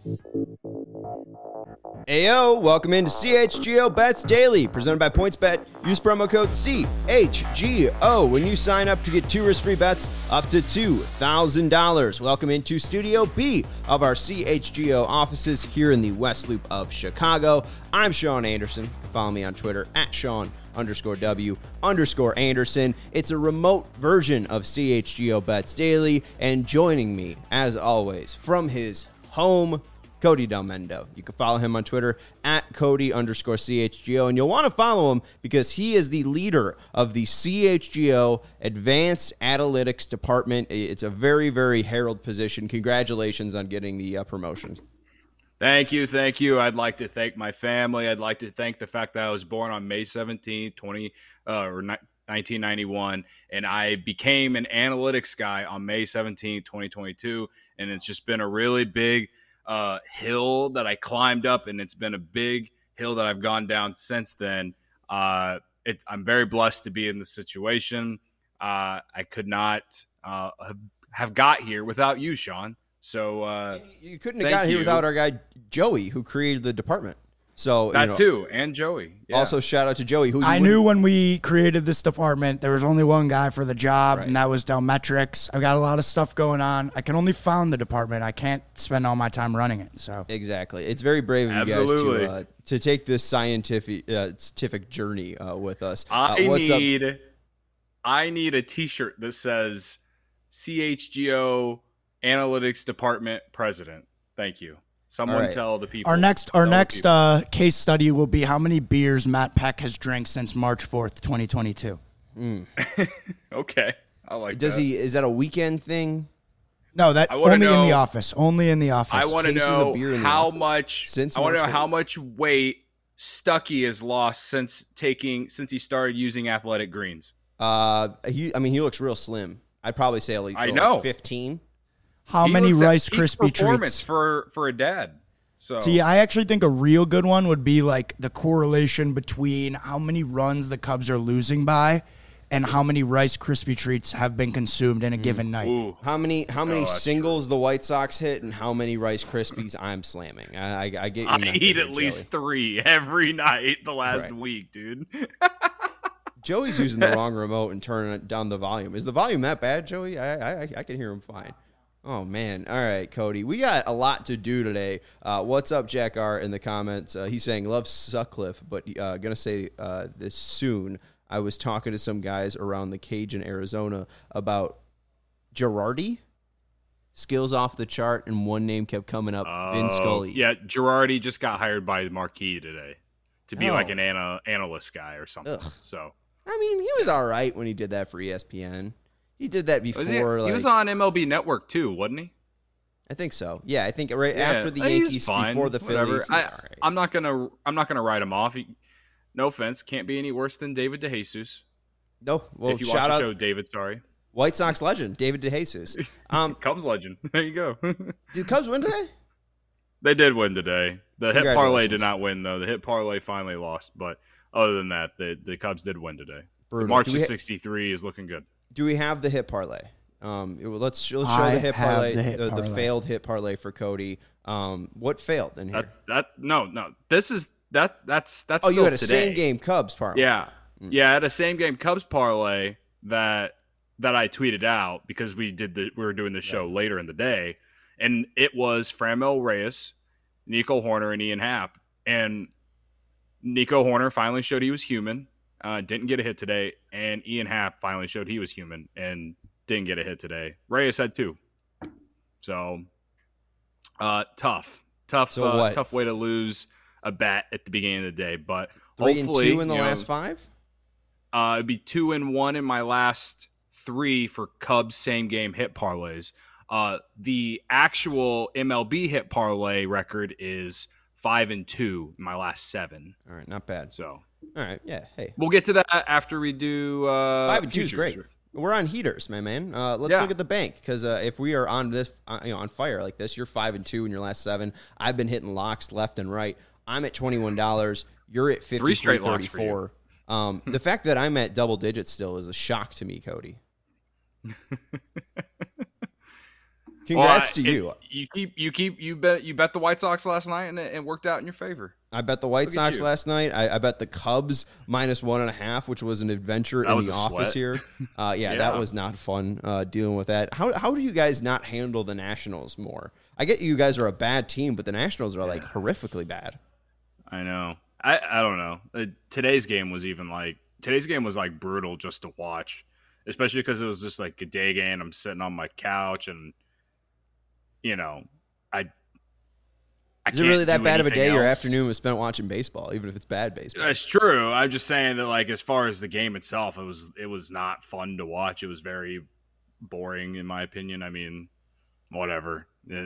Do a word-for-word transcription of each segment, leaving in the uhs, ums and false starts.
Ayo, welcome into C H G O Bets Daily, presented by PointsBet. Use promo code C H G O when you sign up to get two risk-free bets up to two thousand dollars. Welcome into Studio B of our C H G O offices here in the West Loop of Chicago. I'm Sean Anderson. You can follow me on Twitter at Sean underscore W underscore Anderson. It's a remote version of C H G O Bets Daily, and joining me, as always, from his home, Cody Delmendo. You can follow him on Twitter at Cody underscore C H G O, and you'll want to follow him because he is the leader of the C H G O Advanced Analytics Department. It's a very, very herald position. Congratulations on getting the uh, promotion. Thank you, thank you. I'd like to thank my family. I'd like to thank the fact that I was born on May seventeenth, twenty uh, or nineteen ninety-one, and I became an analytics guy on May seventeenth, twenty twenty-two, and it's just been a really big uh, hill that I climbed up, and it's been a big hill that I've gone down since then. Uh, it, I'm very blessed to be in this situation. Uh, I could not uh, have got here without you, Sean. So uh, you couldn't have got here you. without our guy Joey, who created the department. So that you know, too, and Joey. Yeah. Also, shout out to Joey. Who I knew when we created this department, there was only one guy for the job, right. and that was Delmetrics. I've got a lot of stuff going on. I can only found the department. I can't spend all my time running it. So exactly, it's very brave of Absolutely. you guys to uh, to take this scientific uh, scientific journey uh, with us. Uh, I what's need, up? I need a T-shirt that says C H G O Analytics Department President. Thank you. Someone right. tell the people. our next our Tell next uh, case study will be how many beers Matt Peck has drank since March fourth, twenty twenty-two. Mm. Okay, I like Does that. he? Is that a weekend thing? No, that I wanna only in know- the office. Only in the office. I want to cases of know beer in the how office much. since I want to know March how fourth. much weight Stuckey has lost since taking since he started using Athletic Greens. Uh, he. I mean, he looks real slim. I'd probably say at least I like know. fifteen. how He many looks at Rice peak Krispie performance treats? for for a dad. So See, I actually think a real good one would be like the correlation between how many runs the Cubs are losing by and how many Rice Krispie treats have been consumed in a given night. Ooh. How many? How many Oh, that's singles the White Sox hit, and how many Rice Krispies I'm slamming? I, I, I get. Your I method eat here, at least Joey. three every night the last Right. week, dude. Joey's using the wrong remote and turning it down the volume. Is the volume that bad, Joey? I I, I can hear him fine. Oh, man. All right, Cody. We got a lot to do today. Uh, what's up, Jack R, in the comments? Uh, he's saying, love Sutcliffe, but uh, going to say uh, this soon. I was talking to some guys around the cage in Arizona about Girardi. Skills off the chart, and one name kept coming up, Vin Oh, Scully. Yeah, Girardi just got hired by Marquee today to be Oh. like an ana- analyst guy or something. Ugh. So I mean, he was all right when he did that for E S P N. He did that before. was he, like, he was on M L B Network too, wasn't he? I think so. Yeah, I think right Yeah, after the he's Yankees, fine, before the whatever. Phillies. He I, was all right. I'm not gonna. I'm not gonna write him off. He, no offense, can't be any worse than David DeJesus. No, well, if you shout watch the out show, David. Sorry, White Sox legend David DeJesus. Um, Cubs legend. There you go. did Cubs win today? They did win today. The hit parlay Congratulations. did not win though. The hit parlay finally lost, but other than that, the the Cubs did win today. Brutal. March Do we to ha- sixty-three is looking good. Do we have the hit parlay? Um, it- let's, let's show I the hit have parlay, the hit the, the parlay. failed hit parlay for Cody. Um, what failed in here? That that no no. This is that that's that's. oh, you still had a today. same game Cubs parlay. Yeah, Mm. yeah. I had a same game Cubs parlay that that I tweeted out because we did the we were doing the show later in the day, and it was Franmil Reyes, Nico Horner, and Ian Happ, and Nico Horner finally showed he was human. Uh, didn't get a hit today, and Ian Happ finally showed he was human and didn't get a hit today. Reyes had two, so uh, tough, tough, So uh, what? tough way to lose a bet at the beginning of the day. But Three hopefully, and two in the you know, last five. uh, it'd be two and one in my last three for Cubs same game hit parlays. Uh, the actual M L B hit parlay record is five and two in my last seven. All right, not bad. So All right, yeah. Hey, we'll get to that after we do uh, five and two is futures. great. We're on heaters, my man. Uh, let's Yeah. look at the bank because uh, if we are on this, uh, you know, on fire like this, you're five and two in your last seven. I've been hitting locks left and right. I'm at twenty-one dollars. You're at fifty-three Three straight locks for you. thirty-four. Um, the fact that I'm at double digits still is a shock to me, Cody. Congrats well, to you. You keep you keep you bet you bet the White Sox last night and it, it worked out in your favor. I bet the White Look Sox last night. I, I bet the Cubs minus one and a half, which was an adventure that in was the a office sweat. here. Uh, yeah, Yeah. that was not fun uh, dealing with that. How how do you guys not handle the Nationals more? I get you guys are a bad team, but the Nationals are like horrifically bad. I know. I I don't know. Uh, today's game was even like today's game was like brutal just to watch, especially because it was just like a day game. I'm sitting on my couch and you know I. I Is it really can't that do bad of a anything day? Your else. afternoon was spent watching baseball, even if it's bad baseball. That's true. I'm just saying that, like, as far as the game itself, it was it was not fun to watch. It was very boring, in my opinion. I mean, whatever.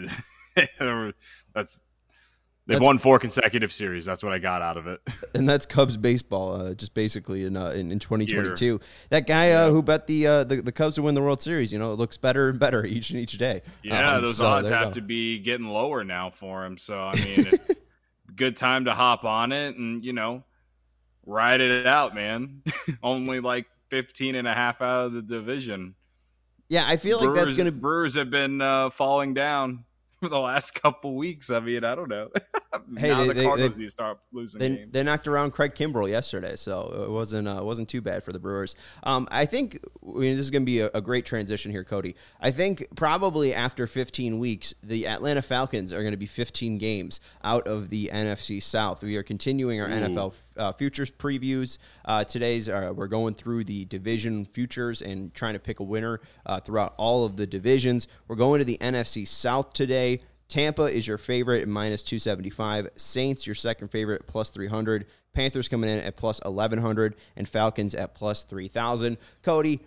That's they've That's- won four consecutive series. That's what I got out of it. And that's Cubs baseball, uh, just basically in, uh, in in twenty twenty-two. That guy uh, who bet the, uh, the the Cubs to win the World Series, you know, it looks better and better each and each day. Yeah, Um, those so odds there you have go. to be getting lower now for him. So I mean, it- good time to hop on it and you know ride it out, man. Only like fifteen and a half out of the division. Yeah, I feel like Brewers, that's gonna. Brewers have been uh, falling down for the last couple weeks. I mean, I don't know. Hey, now they- the they- Cardinals they- need to start losing They, games. they knocked around Craig Kimbrell yesterday, so it wasn't uh, wasn't too bad for the Brewers. Um, I think I mean, this is going to be a, a great transition here, Cody. I think probably after fifteen weeks, the Atlanta Falcons are going to be fifteen games out of the N F C South. We are continuing our Ooh. N F L uh, futures previews. Uh, today's uh, we're going through the division futures and trying to pick a winner uh, throughout all of the divisions. We're going to the N F C South today. Tampa is your favorite at minus two seventy-five. Saints, your second favorite at plus three hundred. Panthers coming in at plus eleven hundred. And Falcons at plus three thousand. Cody,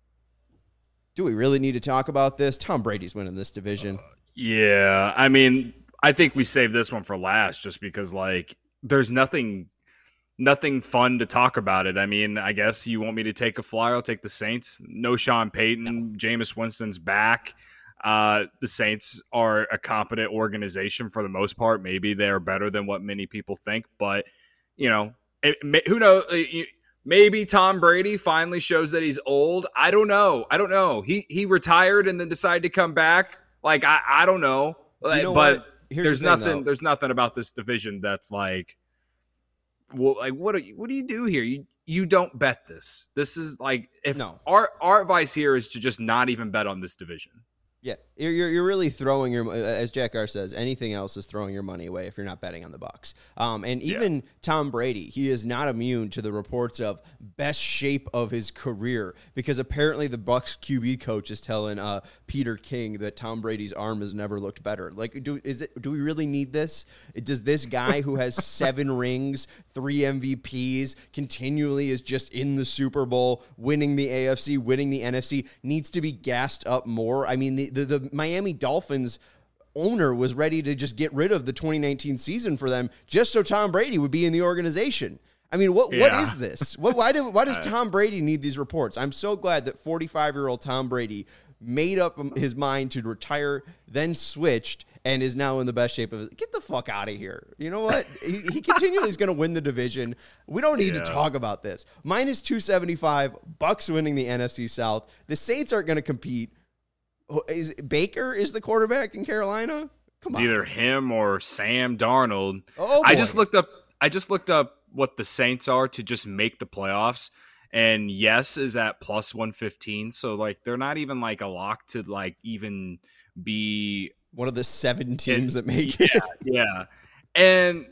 do we really need to talk about this? Tom Brady's winning this division. Yeah, I mean, I think we saved this one for last just because, like, there's nothing nothing fun to talk about it. I mean, I guess you want me to take a flyer, I'll take the Saints. No Sean Payton. Jameis Winston's back. Uh, the Saints are a competent organization for the most part. Maybe they're better than what many people think, but you know, it, may, who knows? Maybe Tom Brady finally shows that he's old. I don't know. I don't know. He he retired and then decided to come back. Like I, I don't know. You know but what? Here's there's the thing, nothing. though. There's nothing about this division that's like, well, like what? Do you, what do you do here? You you don't bet this. This is like if No. our our advice here is to just not even bet on this division. Yeah, you're, you're you're really throwing your, as Jack Gar says, anything else is throwing your money away if you're not betting on the Bucs. Um, and even yeah. Tom Brady, he is not immune to the reports of best shape of his career because apparently the Bucs Q B coach is telling uh, Peter King that Tom Brady's arm has never looked better. Like, do is it? Do we really need this? Does this guy who has seven rings, three M V Ps, continually is just in the Super Bowl, winning the A F C, winning the N F C, needs to be gassed up more? I mean, the The, the Miami Dolphins owner was ready to just get rid of the twenty nineteen season for them just so Tom Brady would be in the organization. I mean, what yeah. what is this? What, why, do, why does Tom Brady need these reports? I'm so glad that forty-five-year-old Tom Brady made up his mind to retire, then switched, and is now in the best shape of his. Get the fuck out of here. You know what? he, he continually is going to win the division. We don't need Yeah. to talk about this. Minus two seventy-five, Bucks winning the N F C South. The Saints aren't going to compete. Is Baker is the quarterback in Carolina? Come It's on. either him or Sam Darnold. Oh, I boy. just looked up. I just looked up what the Saints are to just make the playoffs, and yes is at plus one fifteen. So like they're not even like a lock to like even be One of the seven teams that make yeah, it. yeah. And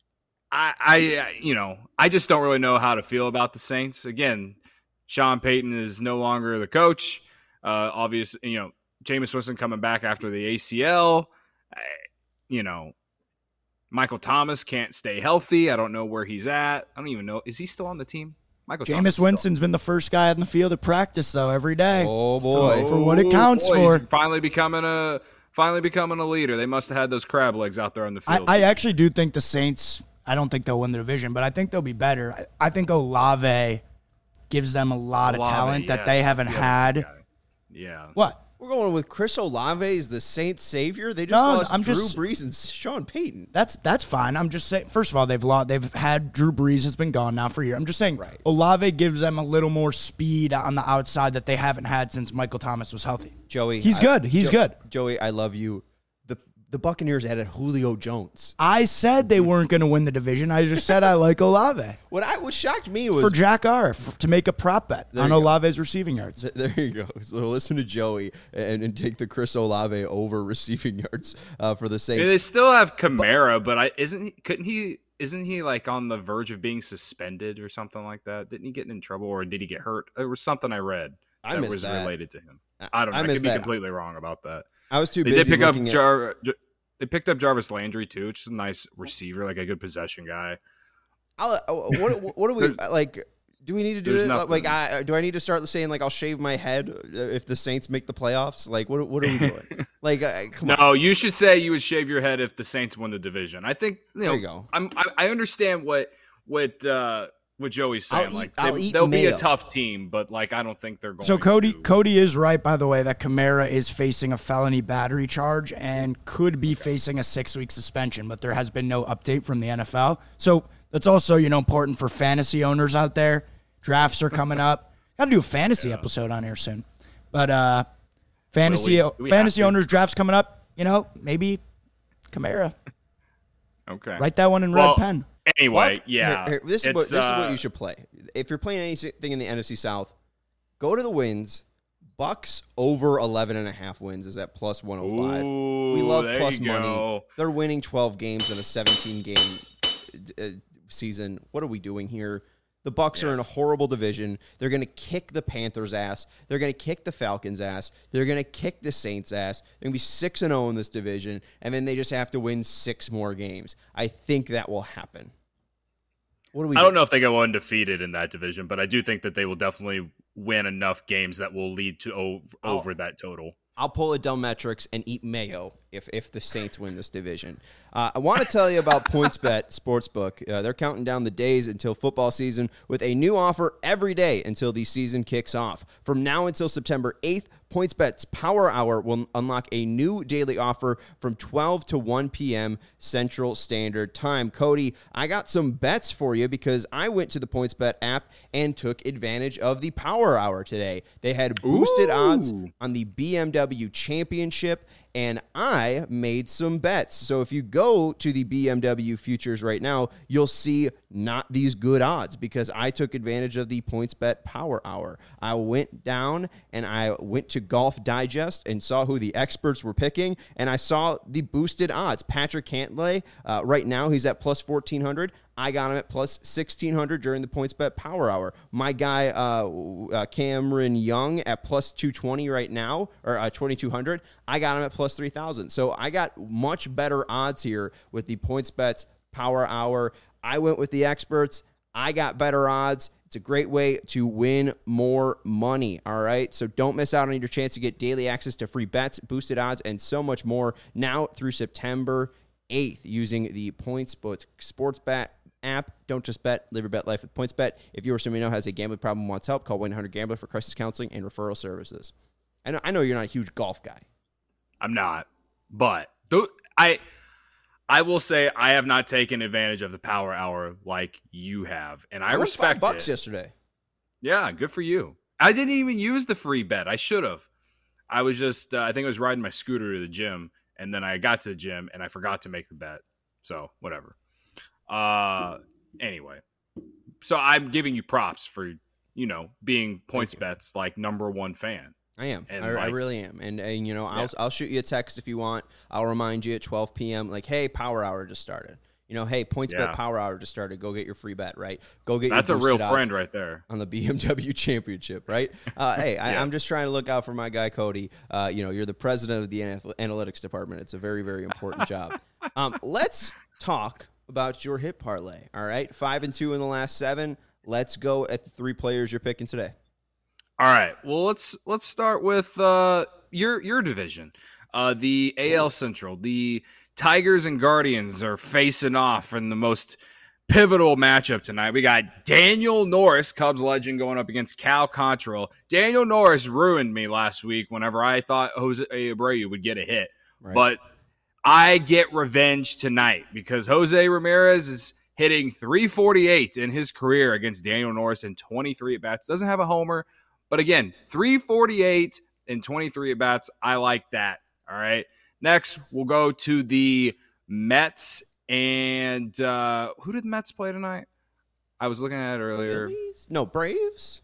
I, I, you know, I just don't really know how to feel about the Saints. Again, Sean Payton is no longer the coach. Uh, obviously, you know, Jameis Winston coming back after the A C L. I, you know, Michael Thomas can't stay healthy. I don't know where he's at. I don't even know. Is he still on the team? Michael Thomas Jameis Winston's been the first guy on the field at practice, though, every day. Oh, boy. For, for what it counts boy, for. He's finally becoming a finally becoming a leader. They must have had those crab legs out there on the I, field. I actually do think the Saints, I don't think they'll win the division, but I think they'll be better. I, I think Olave gives them a lot Olave, of talent that yes, they haven't the other had. guy. Yeah. What? We're going with Chris Olave as the Saints savior. They just No, lost I'm Drew just- Brees and Sean Payton. That's that's fine. I'm just saying. First of all, they've lost. They've had Drew Brees has been gone now for a year. I'm just saying. Right. Olave gives them a little more speed on the outside that they haven't had since Michael Thomas was healthy. Joey, He's I- good. He's Jo- good. Joey, I love you. The the Buccaneers added Julio Jones. I said they weren't going to win the division. I just said I like Olave What I what shocked me was for Jack R f- to make a prop bet There on you go. Olave's receiving yards. There you go. So listen to Joey and, and take the Chris Olave over receiving yards uh, for the I Saints. mean, they still have Kamara, but I isn't he, couldn't he isn't he like on the verge of being suspended or something like that? Didn't he get in trouble or did he get hurt? It was something I read I that missed was that. related to him. I don't know. I I, could missed be that. completely wrong about that. I was too They busy did pick up looking at. Jar. Jar- They picked up Jarvis Landry too, which is a nice receiver, like a good possession guy. I'll, uh, what what do we like? Do we need to do There's it? nothing. Like, I do I need to start saying like I'll shave my head if the Saints make the playoffs? Like, what what are we doing? like, uh, come on. No, you should say you would shave your head if the Saints win the division. I think you know. There you go. I'm, I, I understand what what uh, what Joey's saying. I'll eat- like I'll they, eat they'll be mayo. a tough team, but like I don't think they're going. So Cody to. Cody is right, by the way, that Kamara is facing a felony battery charge and could be facing a six-week suspension, but there has been no update from the N F L. So that's also, you know, important for fantasy owners out there. Drafts are coming up. Got to do a fantasy episode on here soon. But uh, fantasy Will we- do we fantasy have to? owners drafts coming up. You know, maybe Kamara. Okay. Write that one in Well, red pen. Anyway, Well, yeah. here- here, this is what it's, this is what uh, you should play. If you're playing anything in the N F C South, go to the wins. Bucks over eleven and a half wins is at plus one oh five. We Ooh, love there plus you money. go. They're winning twelve games in a seventeen game uh, season. What are we doing here? The Bucks are in a Yes. horrible division. They're going to kick the Panthers' ass. They're going to kick the Falcons' ass. They're going to kick the Saints' ass. They're going to be six and oh in this division, and then they just have to win six more games. I think that will happen. What do we I do? don't know if they go undefeated in that division, but I do think that they will definitely win enough games that will lead to over, Oh. over that total. I'll pull a dumb metrics and eat mayo if if the Saints win this division. Uh, I want to tell you about PointsBet Sportsbook. Uh, they're counting down the days until football season with a new offer every day until the season kicks off. From now until September eighth, PointsBet's Power Hour will unlock a new daily offer from twelve to one p.m. Central Standard Time. Cody, I got some bets for you because I went to the PointsBet app and took advantage of the Power Hour today. They had boosted Ooh. odds on the B M W Championship, and I made some bets. So if you go to the B M W futures right now, you'll see not these good odds because I took advantage of the PointsBet Power Hour. I went down and I went to Golf Digest and saw who the experts were picking, and I saw the boosted odds. Patrick Cantlay, uh, right now he's at plus fourteen hundred. I got him at plus sixteen hundred during the PointsBet Power Hour. My guy, uh, uh, Cameron Young, at plus two twenty right now, or uh, twenty-two hundred. I got him at plus three thousand. So I got much better odds here with the PointsBet Power Hour. I went with the experts. I got better odds. It's a great way to win more money, all right? So don't miss out on your chance to get daily access to free bets, boosted odds, and so much more now through September eighth using the PointsBet Sportsbet app. Don't just bet, live your bet life with PointsBet. If you or someone you know has a gambling problem and wants help, call one eight hundred gambler for crisis counseling and referral services. I know, I know you're not a huge golf guy. I'm not, but th- I I will say I have not taken advantage of the Power Hour like you have, and I, I won respect five bucks it. yesterday. Yeah, good for you. I didn't even use the free bet. I should have. I was just uh, I think I was riding my scooter to the gym, and then I got to the gym and I forgot to make the bet. So whatever. Uh, anyway, so I'm giving you props for you know being PointsBet's like number one fan. I am. And I, I like- really am. And, and you know, I'll Yeah. I'll shoot you a text if you want. I'll remind you at twelve p.m. like, hey, Power Hour just started. You know, hey, PointsBet Yeah. Power Hour just started. Go get your free bet, right? Go get That's your a real boosted odds friend right there. on the B M W Championship, right? Uh, hey, I, Yeah. I'm just trying to look out for my guy Cody. Uh, you know, you're the president of the anal- analytics department. It's a very, very important job. Um, let's talk about your hit parlay. All right, five and two in the last seven. Let's go at the three players you're picking today. All right. Well, let's let's start with uh, your your division, uh, the A L Central. The Tigers and Guardians are facing off in the most pivotal matchup tonight. We got Daniel Norris, Cubs legend, going up against Cal Contrail. Daniel Norris ruined me last week whenever I thought Jose Abreu would get a hit. Right. But I get revenge tonight because Jose Ramirez is hitting three forty-eight in his career against Daniel Norris in twenty-three at-bats. Doesn't have a homer. But again, three forty-eight in twenty-three at-bats. I like that. All right. Next, we'll go to the Mets. And uh, who did the Mets play tonight? I was looking at it earlier. Phillies? No, Braves?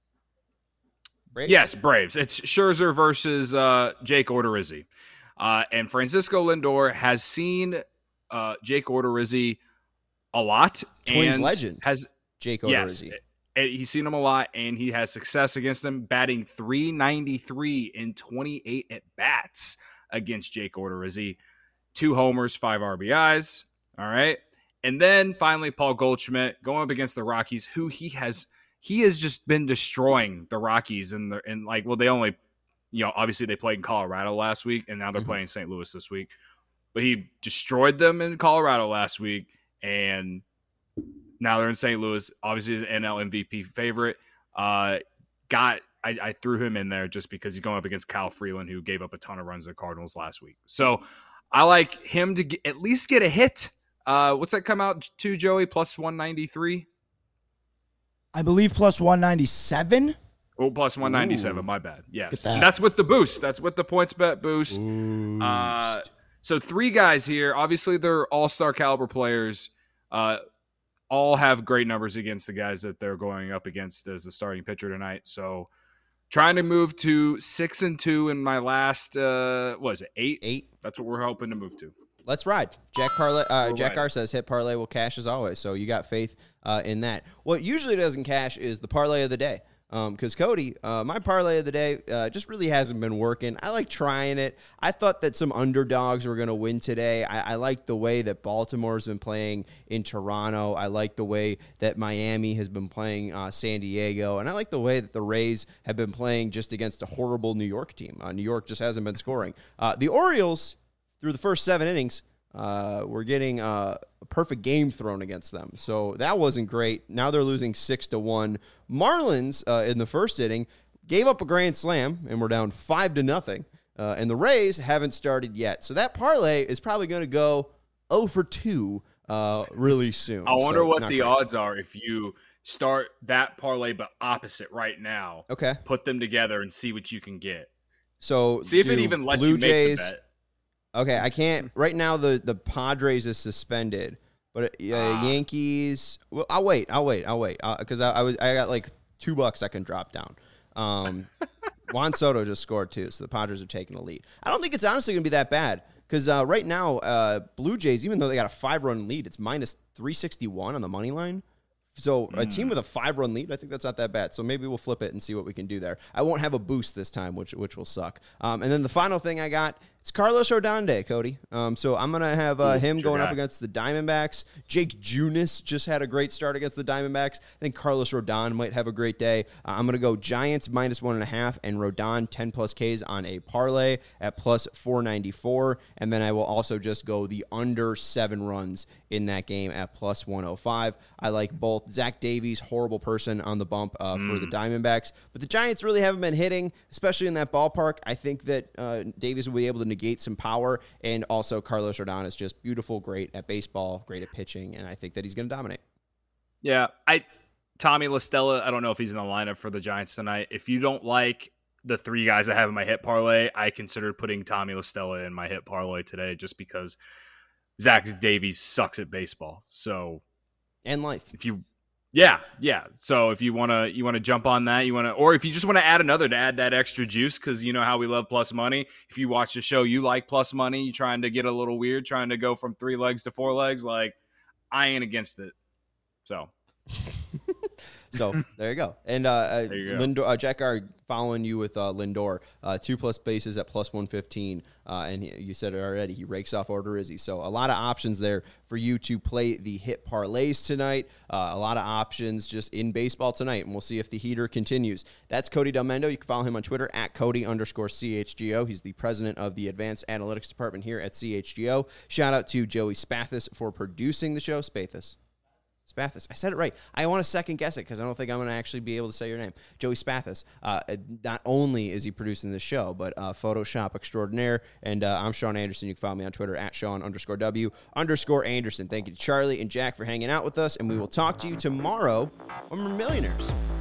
Braves? Yes, Braves. It's Scherzer versus uh, Jake Odorizzi. Uh, and Francisco Lindor has seen uh, Jake Odorizzi a lot. Twins and legend. Has Jake Odorizzi. Yes, he's seen him a lot, and he has success against him, batting three ninety-three in twenty-eight at-bats against Jake Odorizzi. Two homers, five R B Is. All right. And then finally, Paul Goldschmidt going up against the Rockies, who he has he has just been destroying the Rockies. And, and like, well, they only, you know, obviously they played in Colorado last week, and now they're mm-hmm. playing Saint Louis this week. But he destroyed them in Colorado last week, and now they're in Saint Louis. Obviously, the N L M V P favorite. Uh, got I, I threw him in there just because he's going up against Kyle Freeland, who gave up a ton of runs to the Cardinals last week. So I like him to get, at least get a hit. Uh, what's that come out to, Joey? Plus one ninety-three? I believe plus one ninety-seven. Oh, plus one ninety-seven. Ooh. My bad. Yes. That. That's with the boost. That's with the points bet boost. boost. Uh, so three guys here. Obviously, they're all-star caliber players. Uh, all have great numbers against the guys that they're going up against as the starting pitcher tonight. So trying to move to six and two in my last, uh, what is it, eight? Eight. That's what we're hoping to move to. Let's ride. Jack Parlay, uh, Jack R says hit parlay will cash as always. So you got faith uh, in that. What usually doesn't cash is the parlay of the day. Because um, Cody, uh, my parlay of the day uh, just really hasn't been working. I like trying it. I thought that some underdogs were going to win today. I, I like the way that Baltimore's been playing in Toronto. I like the way that Miami has been playing uh, San Diego. And I like the way that the Rays have been playing just against a horrible New York team. Uh, New York just hasn't been scoring. Uh, the Orioles, through the first seven innings, uh, were getting uh, a perfect game thrown against them. So that wasn't great. Now they're losing six to one. Marlins uh, in the first inning gave up a grand slam and we're down five to nothing. Uh, and the Rays haven't started yet. So that parlay is probably going to go oh for two uh, really soon. I wonder so, what the great. odds are if you start that parlay but opposite right now. Okay. Put them together and see what you can get. So see if it even lets Blue you make Jays, the bet. Okay, I can't. Right now, the, the Padres is suspended, but uh, ah. Yankees. Well, I'll wait. I'll wait. I'll wait because uh, I, I was I got like two bucks I can drop down. Um, Juan Soto just scored too, so the Padres are taking a lead. I don't think it's honestly going to be that bad because uh, right now, uh, Blue Jays, even though they got a five run lead, it's minus three sixty one on the money line. So a team with a five-run lead, I think that's not that bad. So maybe we'll flip it and see what we can do there. I won't have a boost this time, which which will suck. Um, and then the final thing I got, it's Carlos Rodon Day, Cody. Um, so I'm going to have uh, him sure going got. up against the Diamondbacks. Jake Junis just had a great start against the Diamondbacks. I think Carlos Rodon might have a great day. Uh, I'm going to go Giants minus one and a half and Rodon ten plus Ks on a parlay at plus four ninety-four. And then I will also just go the under seven runs in that game at plus one oh five. I like both. Zach Davies, horrible person on the bump uh, mm. for the Diamondbacks. But the Giants really haven't been hitting, especially in that ballpark. I think that uh, Davies will be able to negate some power. And also Carlos Rodon is just beautiful, great at baseball, great at pitching. And I think that he's going to dominate. Yeah. I Tommy La Stella, I don't know if he's in the lineup for the Giants tonight. If you don't like the three guys I have in my hit parlay, I considered putting Tommy La Stella in my hit parlay today just because Zach Davies sucks at baseball. So, and life. If you, yeah, yeah. So if you want to, you want to jump on that, you want to, or if you just want to add another to add that extra juice, because you know how we love plus money. If you watch the show, you like plus money. You trying to get a little weird, trying to go from three legs to four legs. Like, I ain't against it. So. So there you go. And uh, there you go. Lindor, uh, Jack R following you with uh, Lindor, uh, two plus bases at plus one fifteen. Uh, and he, you said it already, he rakes off Odorizzi. So a lot of options there for you to play the hit parlays tonight. Uh, a lot of options just in baseball tonight. And we'll see if the heater continues. That's Cody Delmendo. You can follow him on Twitter at Cody underscore C H G O. He's the president of the Advanced Analytics Department here at C H G O. Shout out to Joey Spathis for producing the show. Spathis. Spathis. I said it right. I want to second guess it because I don't think I'm going to actually be able to say your name. Joey Spathis. Uh, not only is he producing this show, but uh, Photoshop extraordinaire. And uh, I'm Sean Anderson. You can follow me on Twitter at Sean underscore W underscore Anderson. Thank you to Charlie and Jack for hanging out with us. And we will talk to you tomorrow when we're millionaires.